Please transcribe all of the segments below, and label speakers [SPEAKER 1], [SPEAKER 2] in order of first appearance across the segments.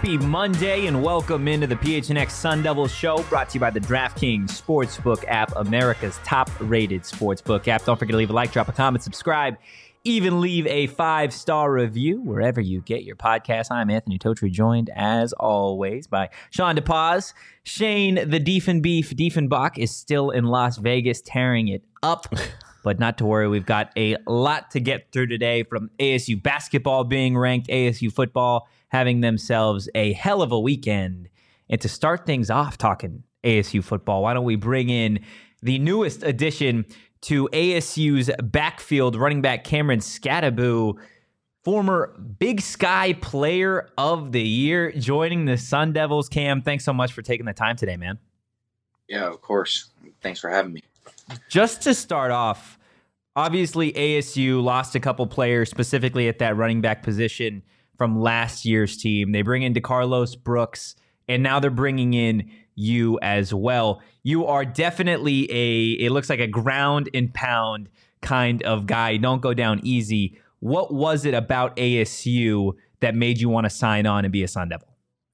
[SPEAKER 1] Happy Monday and welcome into the PHNX Sun Devils show, brought to you by the DraftKings Sportsbook app, America's top-rated sportsbook app. Don't forget to leave a like, drop a comment, subscribe, even leave a 5-star review wherever you get your podcast. I'm Anthony Totri, joined as always by Sean DePaz. Shane the Diefenbach is still in Las Vegas tearing it up. But not to worry, we've got a lot to get through today, from ASU basketball being ranked, ASU football having themselves a hell of a weekend. And to start things off talking ASU football, why don't we bring in the newest addition to ASU's backfield, running back Cameron Skattebo, former Big Sky Player of the Year, joining the Sun Devils. Cam, thanks so much for taking the time today, man.
[SPEAKER 2] Yeah, of course. Thanks for having me.
[SPEAKER 1] Just to start off, obviously ASU lost a couple players, specifically at that running back position from last year's team. They bring in DeCarlos Brooks, and now they're bringing in you as well. You are definitely it looks like a ground and pound kind of guy. Don't go down easy. What was it about ASU that made you want to sign on and be a Sun Devil?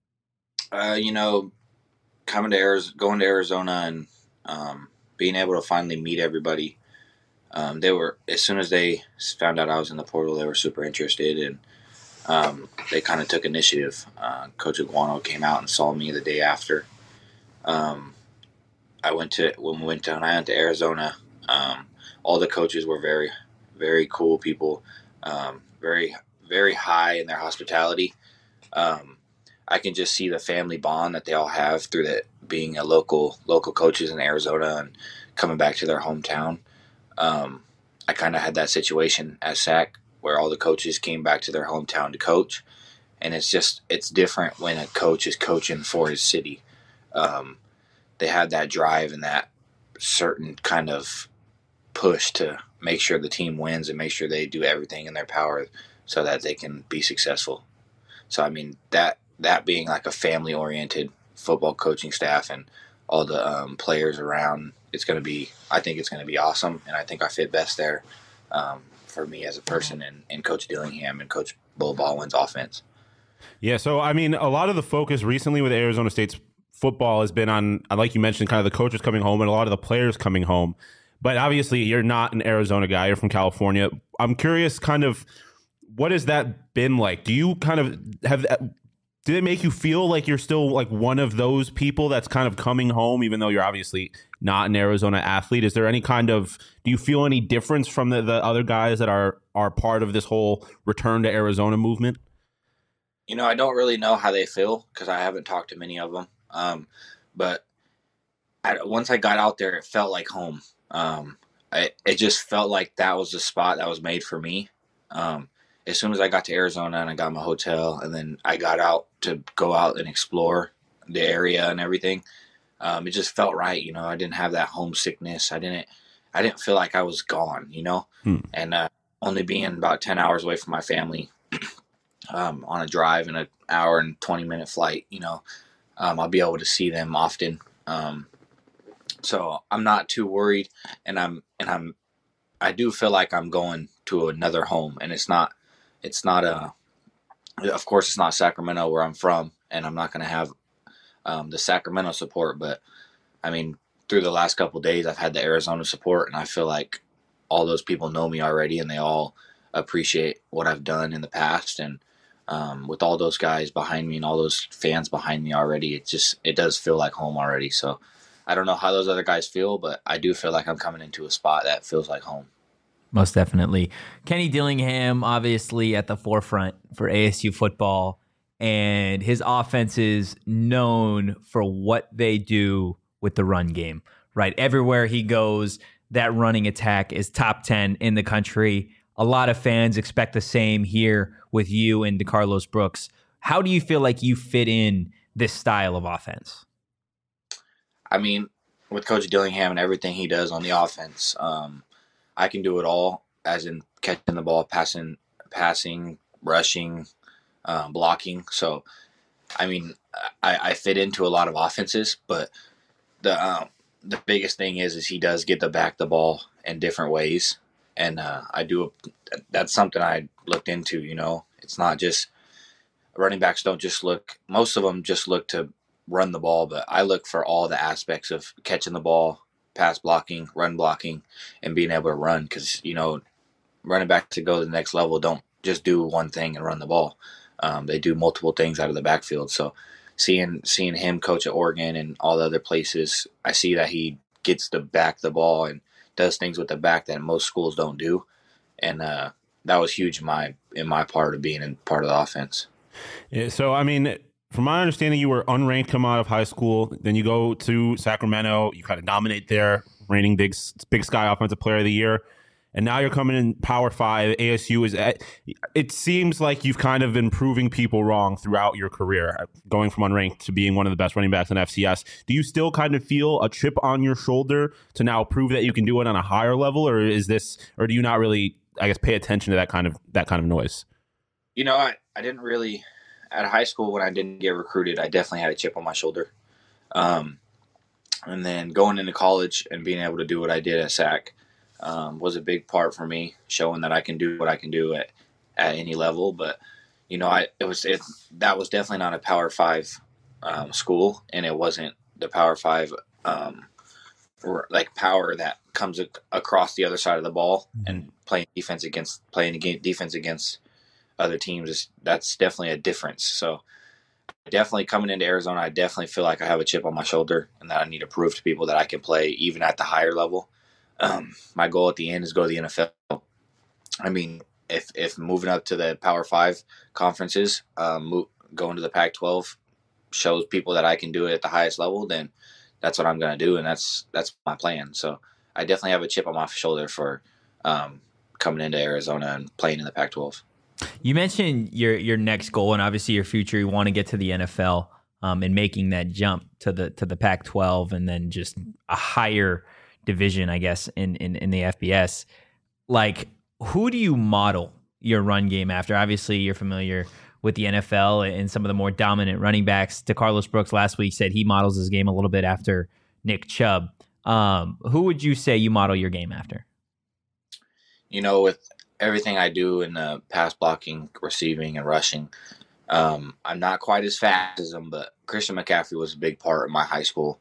[SPEAKER 2] Going to Arizona and being able to finally meet everybody. They were, as soon as they found out I was in the portal, they were super interested, and they kind of took initiative. Coach Iguano came out and saw me the day after. When we went to Arizona, all the coaches were very, very cool people, very, very high in their hospitality. I can just see the family bond that they all have through that, being a local coaches in Arizona and coming back to their hometown. I kind of had that situation at SAC where all the coaches came back to their hometown to coach. And it's different when a coach is coaching for his city. They have that drive and that certain kind of push to make sure the team wins and make sure they do everything in their power so that they can be successful. So, I mean, that being like a family-oriented football coaching staff and all the players around, I think it's going to be awesome, and I think I fit best there for me as a person and Coach Dillingham and Coach Bo Baldwin's offense.
[SPEAKER 3] Yeah, so, I mean, a lot of the focus recently with Arizona State's football has been on, like you mentioned, kind of the coaches coming home and a lot of the players coming home. But obviously, you're not an Arizona guy. You're from California. I'm curious, kind of, what has that been like? Do you kind of did it make you feel like you're still like one of those people that's kind of coming home, even though you're obviously not an Arizona athlete? Is there any kind of, do you feel any difference from the other guys that are part of this whole return to Arizona movement?
[SPEAKER 2] I don't really know how they feel because I haven't talked to many of them. But once I got out there, it felt like home. It just felt like that was the spot that was made for me. As soon as I got to Arizona and I got my hotel and then I got out to go out and explore the area and everything, it just felt right. I didn't have that homesickness. I didn't feel like I was gone, and only being about 10 hours away from my family, on a drive and an hour and 20-minute flight, I'll be able to see them often. So I'm not too worried, and I do feel like I'm going to another home, and it's not of course it's not Sacramento where I'm from, and I'm not going to have the Sacramento support, but I mean, through the last couple of days, I've had the Arizona support, and I feel like all those people know me already, and they all appreciate what I've done in the past. And with all those guys behind me and all those fans behind me already, it does feel like home already. So I don't know how those other guys feel, but I do feel like I'm coming into a spot that feels like home.
[SPEAKER 1] Most definitely. Kenny Dillingham, obviously at the forefront for ASU football, and his offense is known for what they do with the run game, right? Everywhere he goes, that running attack is top 10 in the country. A lot of fans expect the same here with you and DeCarlos Brooks. How do you feel like you fit in this style of offense?
[SPEAKER 2] I mean, with Coach Dillingham and everything he does on the offense, I can do it all, as in catching the ball, passing, rushing, blocking. So, I mean, I fit into a lot of offenses, but the biggest thing is he does get to back the ball in different ways. And that's something I looked into, It's not just running backs don't just look, most of them just look to run the ball, but I look for all the aspects of catching the ball, pass blocking, run blocking, and being able to run, because, running back to go to the next level don't just do one thing and run the ball. They do multiple things out of the backfield. So seeing him coach at Oregon and all the other places, I see that he gets to back the ball and does things with the back that most schools don't do. And that was huge in my part of being in part of the offense.
[SPEAKER 3] Yeah, so, I mean, from my understanding, you were unranked coming out of high school. Then you go to Sacramento. You kind of dominate there, reigning Big Sky Offensive Player of the Year. And now you're coming in Power 5. ASU it seems like you've kind of been proving people wrong throughout your career, going from unranked to being one of the best running backs in FCS. Do you still kind of feel a chip on your shoulder to now prove that you can do it on a higher level, or do you not really, I guess, pay attention to that kind of noise?
[SPEAKER 2] I didn't really, at high school when I didn't get recruited, I definitely had a chip on my shoulder. And then going into college and being able to do what I did at SAC was a big part for me, showing that I can do what I can do at any level. But that was definitely not a Power 5 school, and it wasn't the Power 5 power that comes across the other side of the ball and playing defense against other teams. That's definitely a difference. So definitely coming into Arizona, I definitely feel like I have a chip on my shoulder and that I need to prove to people that I can play even at the higher level. My goal at the end is go to the NFL. I mean, if moving up to the Power 5 conferences, going to the Pac-12 shows people that I can do it at the highest level, then that's what I'm going to do, and that's my plan. So I definitely have a chip on my shoulder for coming into Arizona and playing in the Pac-12.
[SPEAKER 1] You mentioned your next goal and obviously your future. You want to get to the NFL and making that jump to the Pac-12 and then just a higher division, I guess, in the FBS. Like, who do you model your run game after? Obviously, you're familiar with the NFL and some of the more dominant running backs. DeCarlos Brooks last week said he models his game a little bit after Nick Chubb. Who would you say you model your game after?
[SPEAKER 2] With everything I do in the pass blocking, receiving, and rushing, I'm not quite as fast as him, but Christian McCaffrey was a big part of my high school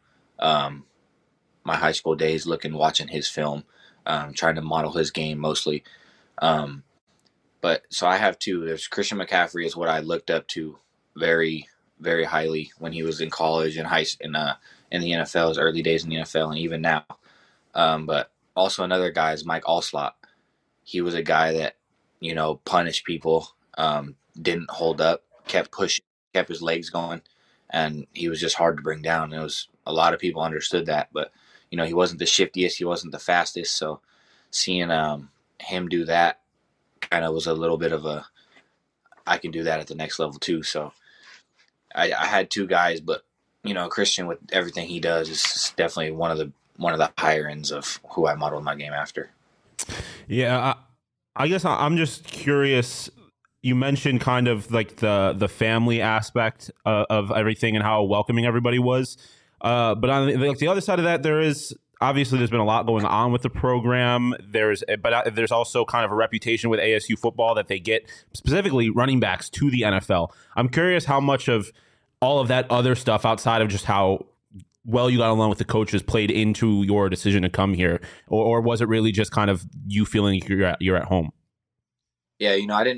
[SPEAKER 2] days, watching his film, trying to model his game mostly. But so I have two. There's Christian McCaffrey is what I looked up to very, very highly when he was in college and in the NFL, his early days in the NFL, and even now. But also another guy is Mike Allslott. He was a guy that, punished people, didn't hold up, kept pushing, kept his legs going, and he was just hard to bring down. It was a lot of people understood that, but he wasn't the shiftiest, he wasn't the fastest. So seeing him do that kind of was a little bit of I can do that at the next level too. So I had two guys, but Christian, with everything he does, is definitely one of the higher ends of who I modeled my game after.
[SPEAKER 3] Yeah, I guess I'm just curious. You mentioned kind of like the family aspect of everything and how welcoming everybody was. But on the other side of that, there's been a lot going on with the program. There's also kind of a reputation with ASU football that they get specifically running backs to the NFL. I'm curious how much of all of that other stuff outside of just how well you got along with the coaches played into your decision to come here, or was it really just kind of you feeling you're at home?
[SPEAKER 2] Yeah,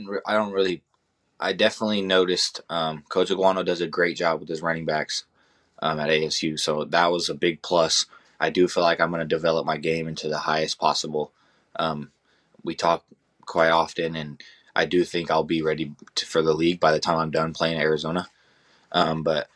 [SPEAKER 2] I definitely noticed Coach Aguano does a great job with his running backs at ASU, so that was a big plus. I do feel like I'm going to develop my game into the highest possible. We talk quite often, and I do think I'll be ready for the league by the time I'm done playing at Arizona. But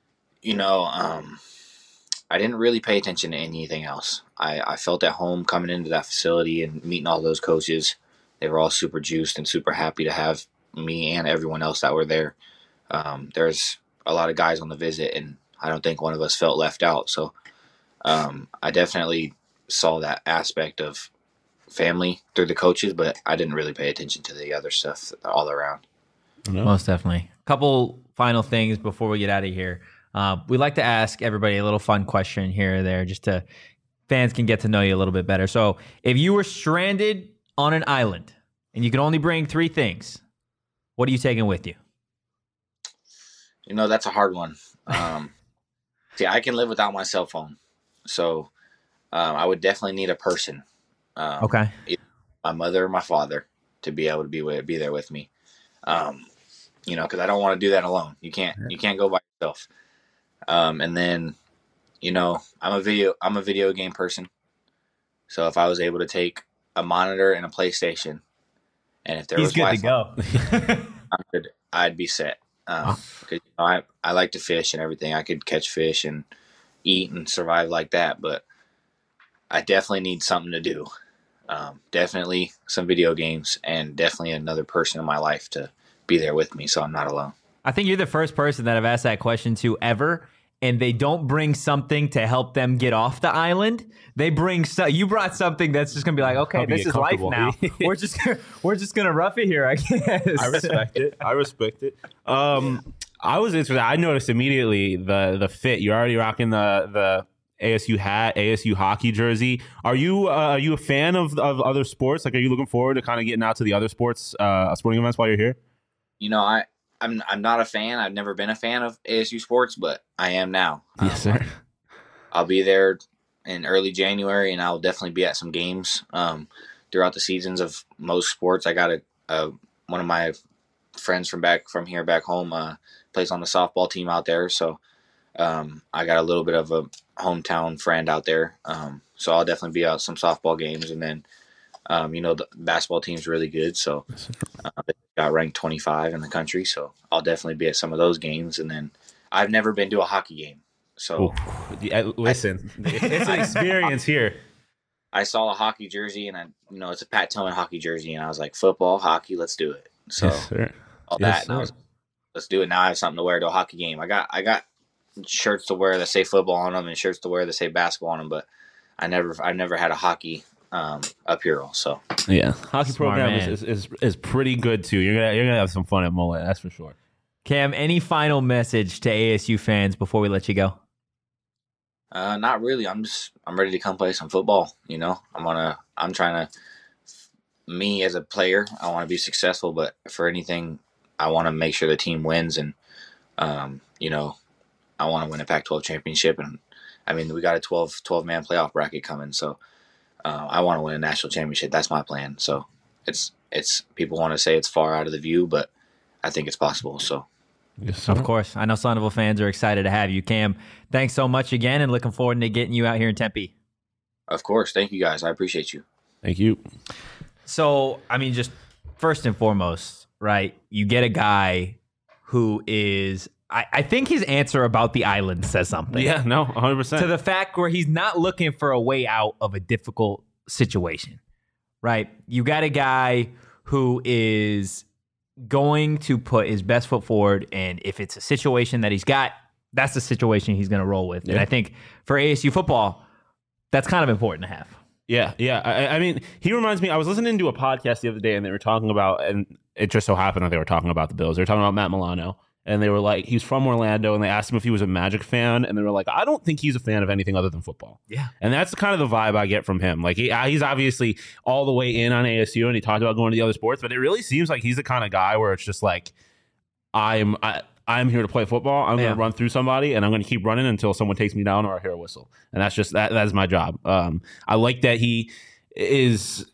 [SPEAKER 2] I didn't really pay attention to anything else. I felt at home coming into that facility and meeting all those coaches. They were all super juiced and super happy to have me and everyone else that were there. There's a lot of guys on the visit, and I don't think one of us felt left out. So I definitely saw that aspect of family through the coaches, but I didn't really pay attention to the other stuff all around.
[SPEAKER 1] No. Most definitely. A couple final things before we get out of here. We like to ask everybody a little fun question here or there just to fans can get to know you a little bit better. So if you were stranded on an island and you could only bring three things, what are you taking with you?
[SPEAKER 2] That's a hard one. See, I can live without my cell phone, so I would definitely need a person.
[SPEAKER 1] Okay.
[SPEAKER 2] Either my mother or my father to be able to be there with me. Because I don't want to do that alone. You can't go by yourself. And then, I'm a video game person. So if I was able to take a monitor and a PlayStation, and if there was
[SPEAKER 1] good to go.
[SPEAKER 2] I'd be set. Because I like to fish and everything. I could catch fish and eat and survive like that, but I definitely need something to do. Definitely some video games, and definitely another person in my life to be there with me, so I'm not alone.
[SPEAKER 1] I think you're the first person that I've asked that question to ever, and they don't bring something to help them get off the island. They bring you brought something that's just gonna be like, okay, this is life now. we're just gonna rough it here, I guess.
[SPEAKER 3] I respect it. I was interested. I noticed immediately the fit. You're already rocking the ASU hat, ASU hockey jersey. Are you a fan of other sports? Like, are you looking forward to kind of getting out to the other sporting events while you're here?
[SPEAKER 2] I'm not a fan. I've never been a fan of ASU sports, but I am now.
[SPEAKER 3] Yes, sir.
[SPEAKER 2] I'll be there in early January, and I'll definitely be at some games throughout the seasons of most sports. I got one of my friends from back home plays on the softball team out there, so I got a little bit of a hometown friend out there. So I'll definitely be at some softball games, and then the basketball team's really good, so they got ranked 25 in the country, so I'll definitely be at some of those games. And then I've never been to a hockey game, so
[SPEAKER 3] listen, it's an experience here.
[SPEAKER 2] I saw a hockey jersey, and it's a Pat Tillman hockey jersey, and I was like, football, hockey, let's do it. So and I was, let's do it. Now I have something to wear to a hockey game. I got shirts to wear that say football on them and shirts to wear that say basketball on them, but I've never had a hockey apparel. So
[SPEAKER 3] yeah, hockey program is pretty good too. You're gonna have some fun at Mullet, that's for sure.
[SPEAKER 1] Cam, any final message to ASU fans before we let you go?
[SPEAKER 2] Not really. I'm ready to come play some football. I'm trying to, me as a player, I want to be successful, but for anything, I want to make sure the team wins, and I want to win a Pac-12 championship. And I mean, we got a 12-man playoff bracket coming, so I want to win a national championship. That's my plan. So it's people want to say it's far out of the view, but I think it's possible. So.
[SPEAKER 1] Yes, of course. I know Sonneville fans are excited to have you. Cam, thanks so much again, and looking forward to getting you out here in Tempe.
[SPEAKER 2] Of course. Thank you, guys. I appreciate you.
[SPEAKER 3] Thank you.
[SPEAKER 1] So, I mean, just first and foremost, right, you get a guy who is, I think his answer about the island says something.
[SPEAKER 3] Yeah, no, 100%.
[SPEAKER 1] To the fact where he's not looking for a way out of a difficult situation, right? You got a guy who is going to put his best foot forward, and if it's a situation that he's got, that's the situation he's going to roll with. Yeah. And I think for ASU football, that's kind of important to have.
[SPEAKER 3] Yeah. I mean, he reminds me, I was listening to a podcast the other day, and they were talking about, and it just so happened that they were talking about the Bills. They were talking about Matt Milano, and they were like, he's from Orlando, and they asked him if he was a Magic fan, and they were like, I don't think he's a fan of anything other than football.
[SPEAKER 1] Yeah.
[SPEAKER 3] And that's kind of the vibe I get from him. Like, he's obviously all the way in on ASU, and he talked about going to the other sports, but it really seems like he's the kind of guy where it's just like, I'm here to play football. I'm going to run through somebody, and I'm going to keep running until someone takes me down or I hear a whistle. And that's just that is my job. I like that he is,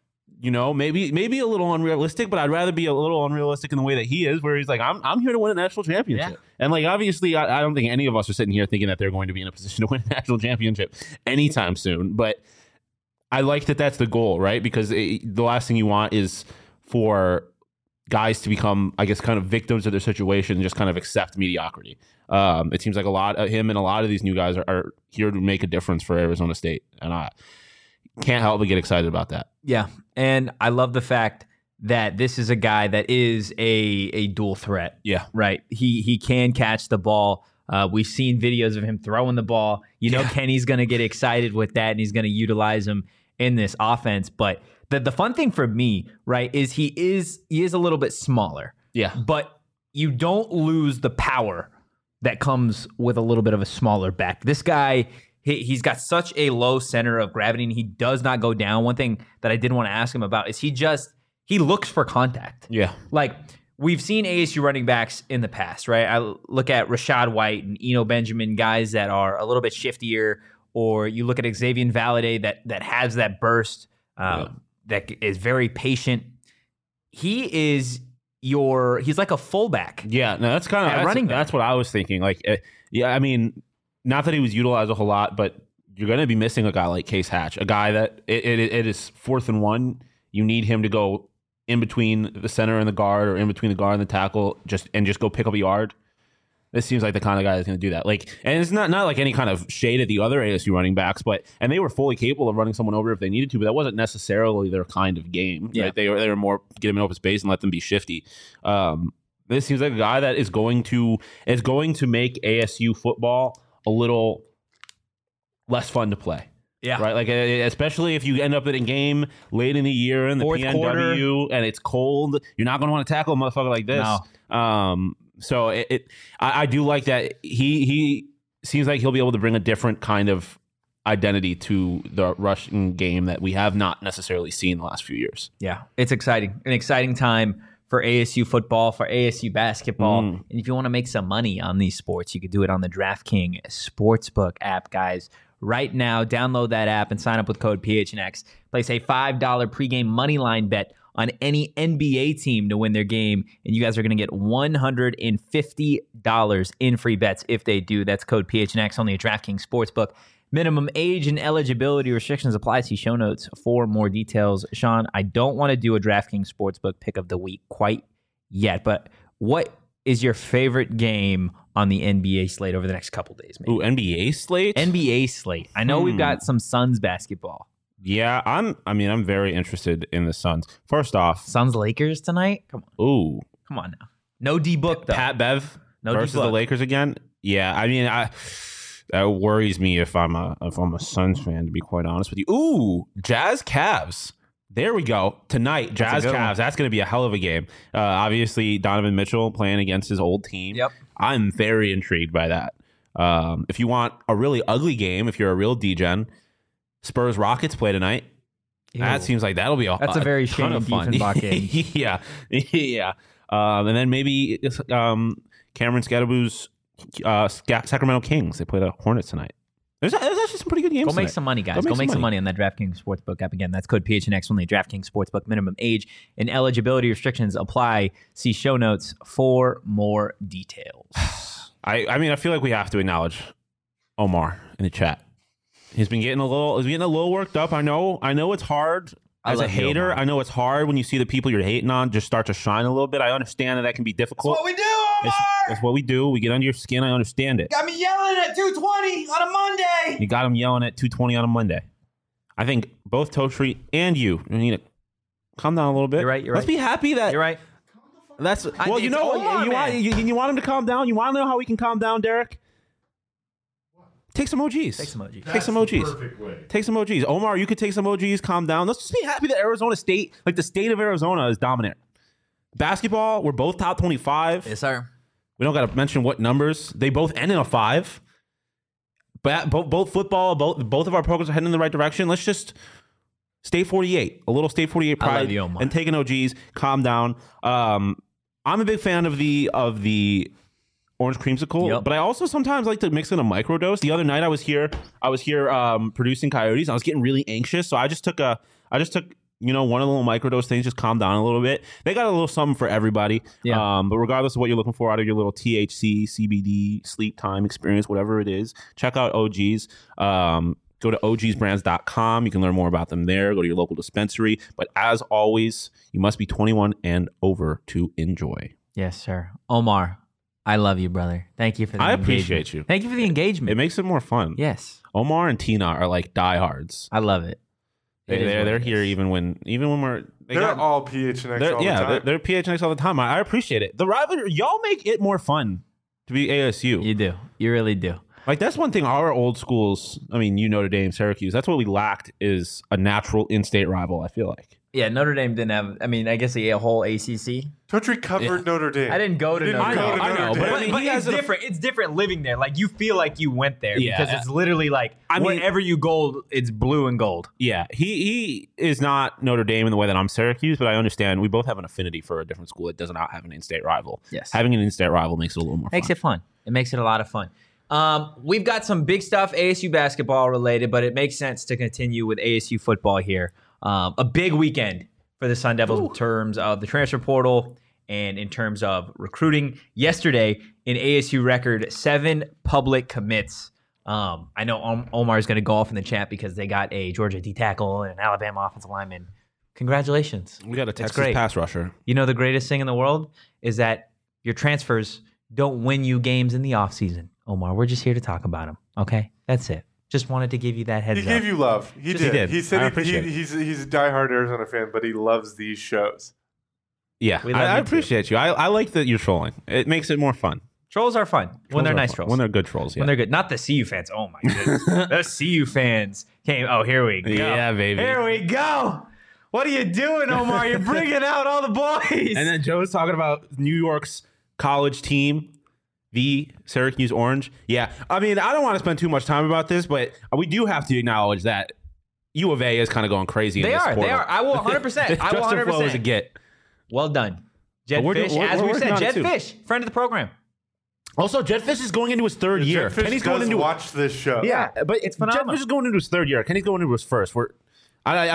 [SPEAKER 3] maybe a little unrealistic, but I'd rather be a little unrealistic in the way that he is, where he's like, I'm here to win a national championship. Yeah. And like, obviously, I don't think any of us are sitting here thinking that they're going to be in a position to win a national championship anytime soon. But I like that that's the goal, right? Because the last thing you want is for guys to become, I guess, kind of victims of their situation and just kind of accept mediocrity. It seems like him and a lot of these new guys are here to make a difference for Arizona State. And I can't help but get excited about that.
[SPEAKER 1] Yeah. And I love the fact that this is a guy that is a dual threat.
[SPEAKER 3] Yeah.
[SPEAKER 1] Right. He can catch the ball. We've seen videos of him throwing the ball. Kenny's going to get excited with that, and he's going to utilize him in this offense. But the fun thing for me, right, is he is a little bit smaller.
[SPEAKER 3] Yeah.
[SPEAKER 1] But you don't lose the power that comes with a little bit of a smaller back. This guy, he's got such a low center of gravity, and he does not go down. One thing that I did want to ask him about is he looks for contact.
[SPEAKER 3] Yeah.
[SPEAKER 1] Like, we've seen ASU running backs in the past, right? I look at Rashad White and Eno Benjamin, guys that are a little bit shiftier, or you look at Xavier Valade that has that burst, that is very patient. He's like a fullback.
[SPEAKER 3] Yeah, no, that's kind of running back. That's what I was thinking. Like, I mean, not that he was utilized a whole lot, but you're going to be missing a guy like Case Hatch, a guy that it is 4th and 1. You need him to go in between the center and the guard, or in between the guard and the tackle, just go pick up a yard. This seems like the kind of guy that's going to do that. Like, and it's not like any kind of shade at the other ASU running backs, and they were fully capable of running someone over if they needed to, but that wasn't necessarily their kind of game. Yeah. Right? They were more get them in open space and let them be shifty. This seems like a guy that is going to make ASU football a little less fun to play.
[SPEAKER 1] Yeah.
[SPEAKER 3] Right. Like, especially if you end up in a game late in the year in the PNW quarter, and it's cold, you're not going to want to tackle a motherfucker like this. No. So I do like that he seems like he'll be able to bring a different kind of identity to the rushing game that we have not necessarily seen the last few years.
[SPEAKER 1] Yeah, it's exciting. An exciting time for ASU football, for ASU basketball. And if you want to make some money on these sports, you could do it on the DraftKings Sportsbook app, guys. Right now, download that app and sign up with code PHNX. Place a $5 pregame moneyline bet on any NBA team to win their game, and you guys are going to get $150 in free bets if they do. That's code PHNX, only a DraftKings Sportsbook. Minimum age and eligibility restrictions apply. See show notes for more details. Sean, I don't want to do a DraftKings Sportsbook pick of the week quite yet, but what is your favorite game on the NBA slate over the next couple days? Maybe?
[SPEAKER 3] Ooh, NBA slate?
[SPEAKER 1] NBA slate. I know we've got some Suns basketball.
[SPEAKER 3] Yeah, I'm very interested in the Suns. First off,
[SPEAKER 1] Suns Lakers tonight. Come on.
[SPEAKER 3] Ooh,
[SPEAKER 1] come on now. No D Book though.
[SPEAKER 3] Pat Bev versus the Lakers again. Yeah, I mean, that worries me if I'm a Suns fan, to be quite honest with you. Ooh, Jazz Cavs. There we go. Tonight, Jazz Cavs. That's going to be a hell of a game. Obviously, Donovan Mitchell playing against his old team.
[SPEAKER 1] Yep.
[SPEAKER 3] I'm very intrigued by that. If you want a really ugly game, if you're a real degen, Spurs Rockets play tonight. Ew. That seems like that'll be a
[SPEAKER 1] very Shane Diefenbach game.
[SPEAKER 3] yeah. And then maybe Cameron Scadaboo's Sacramento Kings. They play the Hornets tonight. There's actually some pretty good games.
[SPEAKER 1] Go make some money, guys. Go make some money on that DraftKings Sportsbook app. Again, that's code PHNX, only DraftKings Sportsbook. Minimum age and eligibility restrictions apply. See show notes for more details.
[SPEAKER 3] I mean, I feel like we have to acknowledge Omar in the chat. He's been getting a little worked up. I know it's hard as a hater. I know it's hard when you see the people you're hating on just start to shine a little bit. I understand that can be difficult.
[SPEAKER 4] That's what we do, Omar.
[SPEAKER 3] It's what we do. We get under your skin. I understand it.
[SPEAKER 4] Got me yelling at 2:20 on a Monday.
[SPEAKER 3] You got him yelling at 2:20 on a Monday. I think both Totri and you need to calm down a little bit.
[SPEAKER 1] You're right.
[SPEAKER 3] Let's be happy that
[SPEAKER 1] you're right.
[SPEAKER 3] That's well. You know, you want him to calm down. You want to know how we can calm down, Derek? Take some OGs.
[SPEAKER 1] Take some OGs.
[SPEAKER 3] Take some OGs. Perfect way. Take some OGs. Omar, you could take some OGs, calm down. Let's just be happy that Arizona State, like the state of Arizona, is dominant. Basketball, we're both top 25.
[SPEAKER 1] Yes, sir.
[SPEAKER 3] We don't got to mention what numbers. They both end in a 5. But both football, both of our programs are heading in the right direction. Let's just State 48, a little State 48 pride,
[SPEAKER 1] I love you, Omar.
[SPEAKER 3] And taking OGs, calm down. I'm a big fan of the orange creamsicle, but I also sometimes like to mix in a microdose. The other night I was here producing Coyotes. I was getting really anxious, so I just took one of the little microdose things, just calm down a little bit. They got a little something for everybody. Yeah. But regardless of what you're looking for out of your little THC, CBD, sleep time experience, whatever it is, check out OGs. Go to ogsbrands.com. You can learn more about them there. Go to your local dispensary. But as always, you must be 21 and over to enjoy.
[SPEAKER 1] Yes, sir. Omar, I love you, brother. Thank you for the engagement.
[SPEAKER 3] Appreciate you.
[SPEAKER 1] Thank you for the engagement.
[SPEAKER 3] It makes it more fun.
[SPEAKER 1] Yes.
[SPEAKER 3] Omar and Tina are like diehards.
[SPEAKER 1] I love it.
[SPEAKER 3] They're here even when we're...
[SPEAKER 5] They're all PHNX all the time.
[SPEAKER 3] Yeah, they're PHNX all the time. I appreciate it. The rivalry, y'all make it more fun to be ASU.
[SPEAKER 1] You do. You really do.
[SPEAKER 3] Like, that's one thing our old schools, I mean, Notre Dame, Syracuse, that's what we lacked is a natural in-state rival, I feel like.
[SPEAKER 1] Yeah, Notre Dame didn't have. I mean, I guess a whole ACC.
[SPEAKER 5] Totri covered Notre Dame.
[SPEAKER 1] I didn't go to Notre Dame.
[SPEAKER 3] I know, but I mean,
[SPEAKER 1] but it's different. It's different living there. Like you feel like you went there because it's literally like wherever you go, it's blue and gold.
[SPEAKER 3] Yeah, he is not Notre Dame in the way that I'm Syracuse, but I understand we both have an affinity for a different school that does not have an in-state rival.
[SPEAKER 1] Yes,
[SPEAKER 3] having an in-state rival makes it a little more.
[SPEAKER 1] Makes it fun. It makes it a lot of fun. We've got some big stuff ASU basketball related, but it makes sense to continue with ASU football here. A big weekend for the Sun Devils in terms of the transfer portal and in terms of recruiting. Yesterday, in ASU record, 7 public commits. I know Omar is going to go off in the chat because they got a Georgia D tackle and an Alabama offensive lineman. Congratulations.
[SPEAKER 3] We got a Texas pass rusher.
[SPEAKER 1] You know the greatest thing in the world is that your transfers don't win you games in the offseason. Omar, we're just here to talk about them, okay? That's it. Just wanted to give you that heads up.
[SPEAKER 5] He gave you love. He did. He said he's a diehard Arizona fan, but he loves these shows.
[SPEAKER 3] Yeah, I appreciate you. I like that you're trolling. It makes it more fun.
[SPEAKER 1] Trolls are fun when they're nice trolls.
[SPEAKER 3] When they're good trolls, yeah.
[SPEAKER 1] When they're good. Not the CU fans. Oh, my goodness. The CU fans came. Oh, here we go.
[SPEAKER 3] Yeah, baby.
[SPEAKER 1] Here we go. What are you doing, Omar? You're bringing out all the boys.
[SPEAKER 3] And then Joe's talking about New York's college team. The Syracuse Orange. Yeah. I mean, I don't want to spend too much time about this, but we do have to acknowledge that U of A is kind of going crazy.
[SPEAKER 1] They are. I will 100%. I will 100%.
[SPEAKER 3] Flow as a get.
[SPEAKER 1] Well done. Jed Fish, as we said, Jed Fish, friend of the program.
[SPEAKER 3] Also, Jed Fish is going into his third year.
[SPEAKER 5] Kenny's going to watch this show.
[SPEAKER 3] Yeah, but it's phenomenal. Jed Fish is going into his third year. Kenny's going into his first. How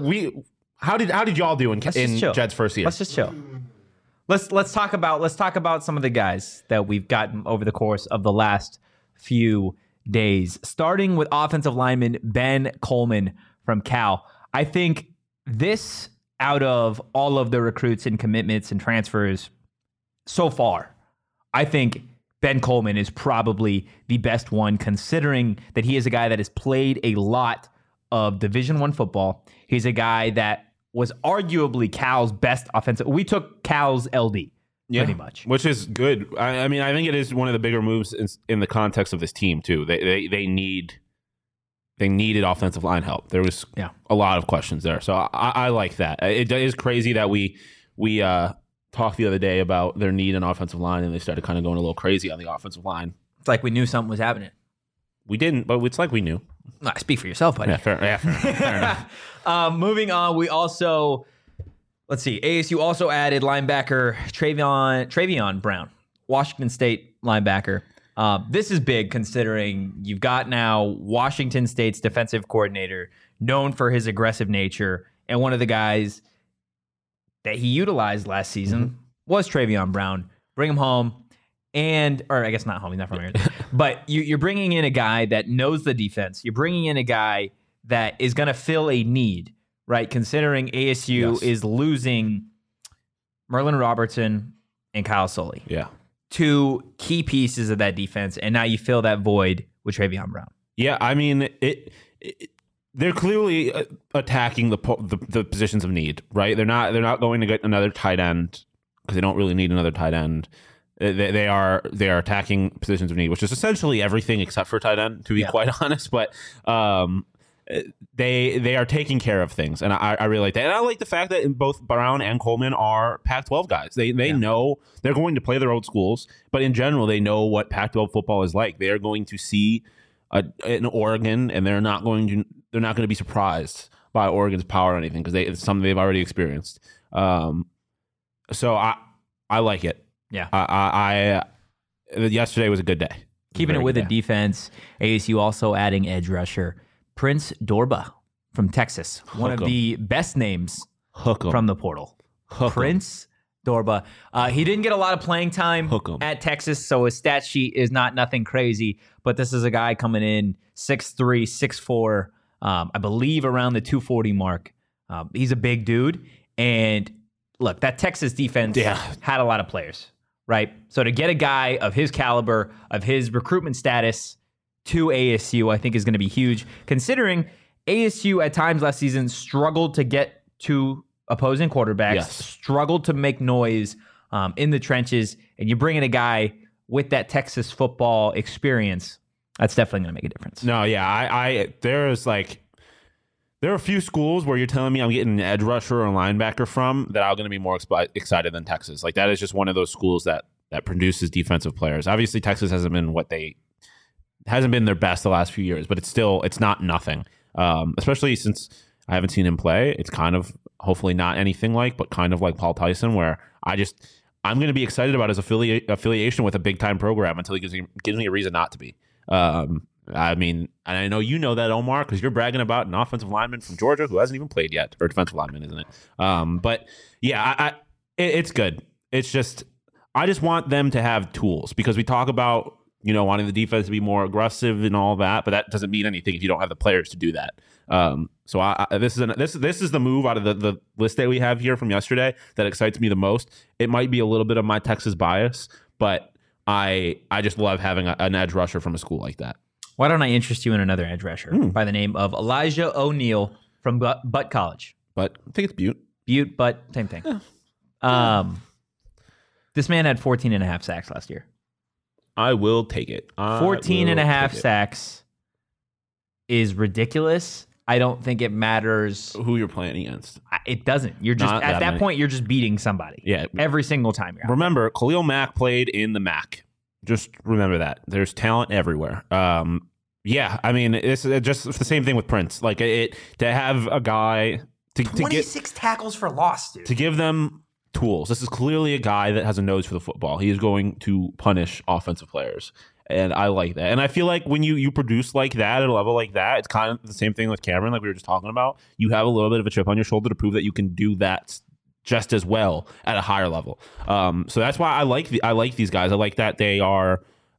[SPEAKER 3] did y'all do in Jed's first year?
[SPEAKER 1] Let's just chill. Let's talk about some of the guys that we've gotten over the course of the last few days. Starting with offensive lineman Ben Coleman from Cal. I think this, out of all of the recruits and commitments and transfers so far, I think Ben Coleman is probably the best one, considering that he is a guy that has played a lot of Division I football. He's a guy that was arguably Cal's best offensive. We took Cal's LD, pretty much.
[SPEAKER 3] Which is good. I mean, I think it is one of the bigger moves in the context of this team, too. They needed offensive line help. There was a lot of questions there. So I like that. It is crazy that we talked the other day about their need an offensive line, and they started kind of going a little crazy on the offensive line.
[SPEAKER 1] It's like we knew something was happening.
[SPEAKER 3] We didn't, but it's like we knew.
[SPEAKER 1] Speak for yourself, buddy.
[SPEAKER 3] Yeah, fair enough.
[SPEAKER 1] Moving on, we also, ASU also added linebacker Travion Brown, Washington State linebacker. This is big considering you've got now Washington State's defensive coordinator, known for his aggressive nature, and one of the guys that he utilized last season was Travion Brown. Bring him home. Or I guess not home, he's not from here. But you're bringing in a guy that knows the defense. You're bringing in a guy that is going to fill a need, right? Considering ASU is losing Merlin Robertson and Kyle Sully.
[SPEAKER 3] Yeah.
[SPEAKER 1] 2 key pieces of that defense, and now you fill that void with Travion Brown.
[SPEAKER 3] Yeah, I mean, they're clearly attacking the positions of need, right? They're not going to get another tight end because they don't really need another tight end. They are attacking positions of need, which is essentially everything except for tight end, to be quite honest. But they are taking care of things, and I really like that. And I like the fact that both Brown and Coleman are Pac-12 guys. They know they're going to play their own schools, but in general, they know what Pac-12 football is like. They are going to see an Oregon, and they're not going to be surprised by Oregon's power or anything because it's something they've already experienced. So I like it.
[SPEAKER 1] Yeah.
[SPEAKER 3] Yesterday was a good day.
[SPEAKER 1] Keeping it with the defense, ASU also adding edge rusher Prince Dorba from Texas, one of the best names from the portal. Prince Dorba. He didn't get a lot of playing time at Texas, so his stat sheet is nothing crazy. But this is a guy coming in 6'3", 6'4", I believe around the 240 mark. He's a big dude, and look, that Texas defense had a lot of players. Right. So to get a guy of his caliber, of his recruitment status to ASU, I think is going to be huge, considering ASU at times last season struggled to get to opposing quarterbacks, struggled to make noise in the trenches, and you bring in a guy with that Texas football experience, that's definitely going to make a difference.
[SPEAKER 3] No, yeah, there's There are a few schools where you're telling me I'm getting an edge rusher or a linebacker from that I'm going to be more excited than Texas. Like that is just one of those schools that produces defensive players. Obviously, Texas hasn't been their best the last few years, but it's not nothing. Especially since I haven't seen him play. It's kind of hopefully not anything but kind of like Paul Tyson, where I'm going to be excited about his affiliation with a big time program until he gives me a reason not to be. I mean, and I know you know that, Omar, because you're bragging about an offensive lineman from Georgia who hasn't even played yet, or defensive lineman, isn't it? But yeah, it's good. It's just I just want them to have tools, because we talk about wanting the defense to be more aggressive and all that, but that doesn't mean anything if you don't have the players to do that. So this is the move out of the list that we have here from yesterday that excites me the most. It might be a little bit of my Texas bias, but I just love having an edge rusher from a school like that.
[SPEAKER 1] Why don't I interest you in another edge rusher by the name of Elijah O'Neal from Butt College?
[SPEAKER 3] But I think it's Butte.
[SPEAKER 1] Butte, but same thing. Yeah. This man had 14 and a half sacks last year.
[SPEAKER 3] I will take it.
[SPEAKER 1] 14 and a half sacks is ridiculous. I don't think it matters
[SPEAKER 3] who you're playing against.
[SPEAKER 1] It doesn't. You're just at that point, you're just beating somebody.
[SPEAKER 3] Yeah.
[SPEAKER 1] Every single time you're out.
[SPEAKER 3] Remember, Khalil Mack played in the MAC. Just remember that. There's talent everywhere. Yeah, I mean, it's just the same thing with Prince. Like to have a guy to
[SPEAKER 4] 26 tackles for loss, dude.
[SPEAKER 3] To give them tools. This is clearly a guy that has a nose for the football. He is going to punish offensive players. And I like that. And I feel like when you produce like that at a level like that, it's kind of the same thing with Cameron, like we were just talking about. You have a little bit of a chip on your shoulder to prove that you can do that just as well at a higher level. So that's why I like these guys. I like that they are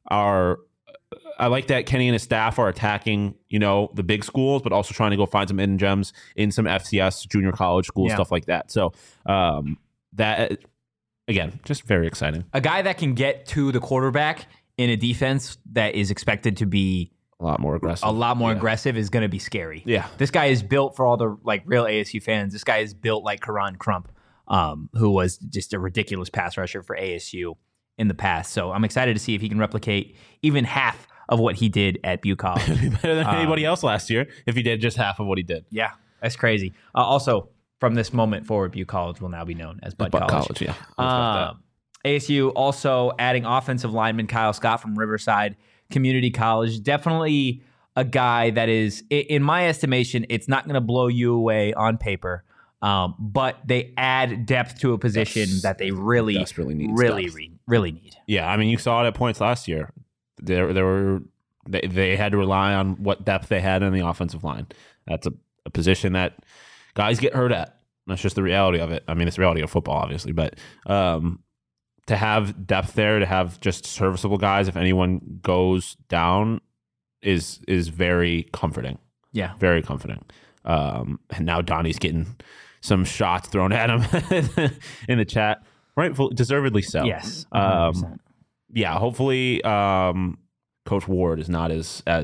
[SPEAKER 3] I like that Kenny and his staff are attacking, the big schools, but also trying to go find some hidden gems in some FCS junior college schools, stuff like that. So that, again, just very exciting.
[SPEAKER 1] A guy that can get to the quarterback in a defense that is expected to be
[SPEAKER 3] a lot more aggressive
[SPEAKER 1] is going to be scary.
[SPEAKER 3] Yeah.
[SPEAKER 1] This guy is built, for all the real ASU fans, this guy is built like Karan Crump, who was just a ridiculous pass rusher for ASU in the past. So I'm excited to see if he can replicate even half of what he did at Butte College.
[SPEAKER 3] Better than anybody else last year if he did just half of what he did.
[SPEAKER 1] Yeah, that's crazy. Also, from this moment forward, Butte College will now be known as Butt College.
[SPEAKER 3] Yeah.
[SPEAKER 1] ASU also adding offensive lineman Kyle Scott from Riverside Community College. Definitely a guy that is, in my estimation, it's not going to blow you away on paper, but they add depth to a position that they really need.
[SPEAKER 3] Yeah, I mean, you saw it at points last year. They had to rely on what depth they had in the offensive line. That's a position that guys get hurt at. That's just the reality of it. I mean, it's the reality of football, obviously, but to have depth there, to have just serviceable guys if anyone goes down is very comforting.
[SPEAKER 1] Yeah.
[SPEAKER 3] Very comforting. And now Donnie's getting some shots thrown at him in the chat. Deservedly so.
[SPEAKER 1] Yes.
[SPEAKER 3] Yeah, hopefully Coach Ward is not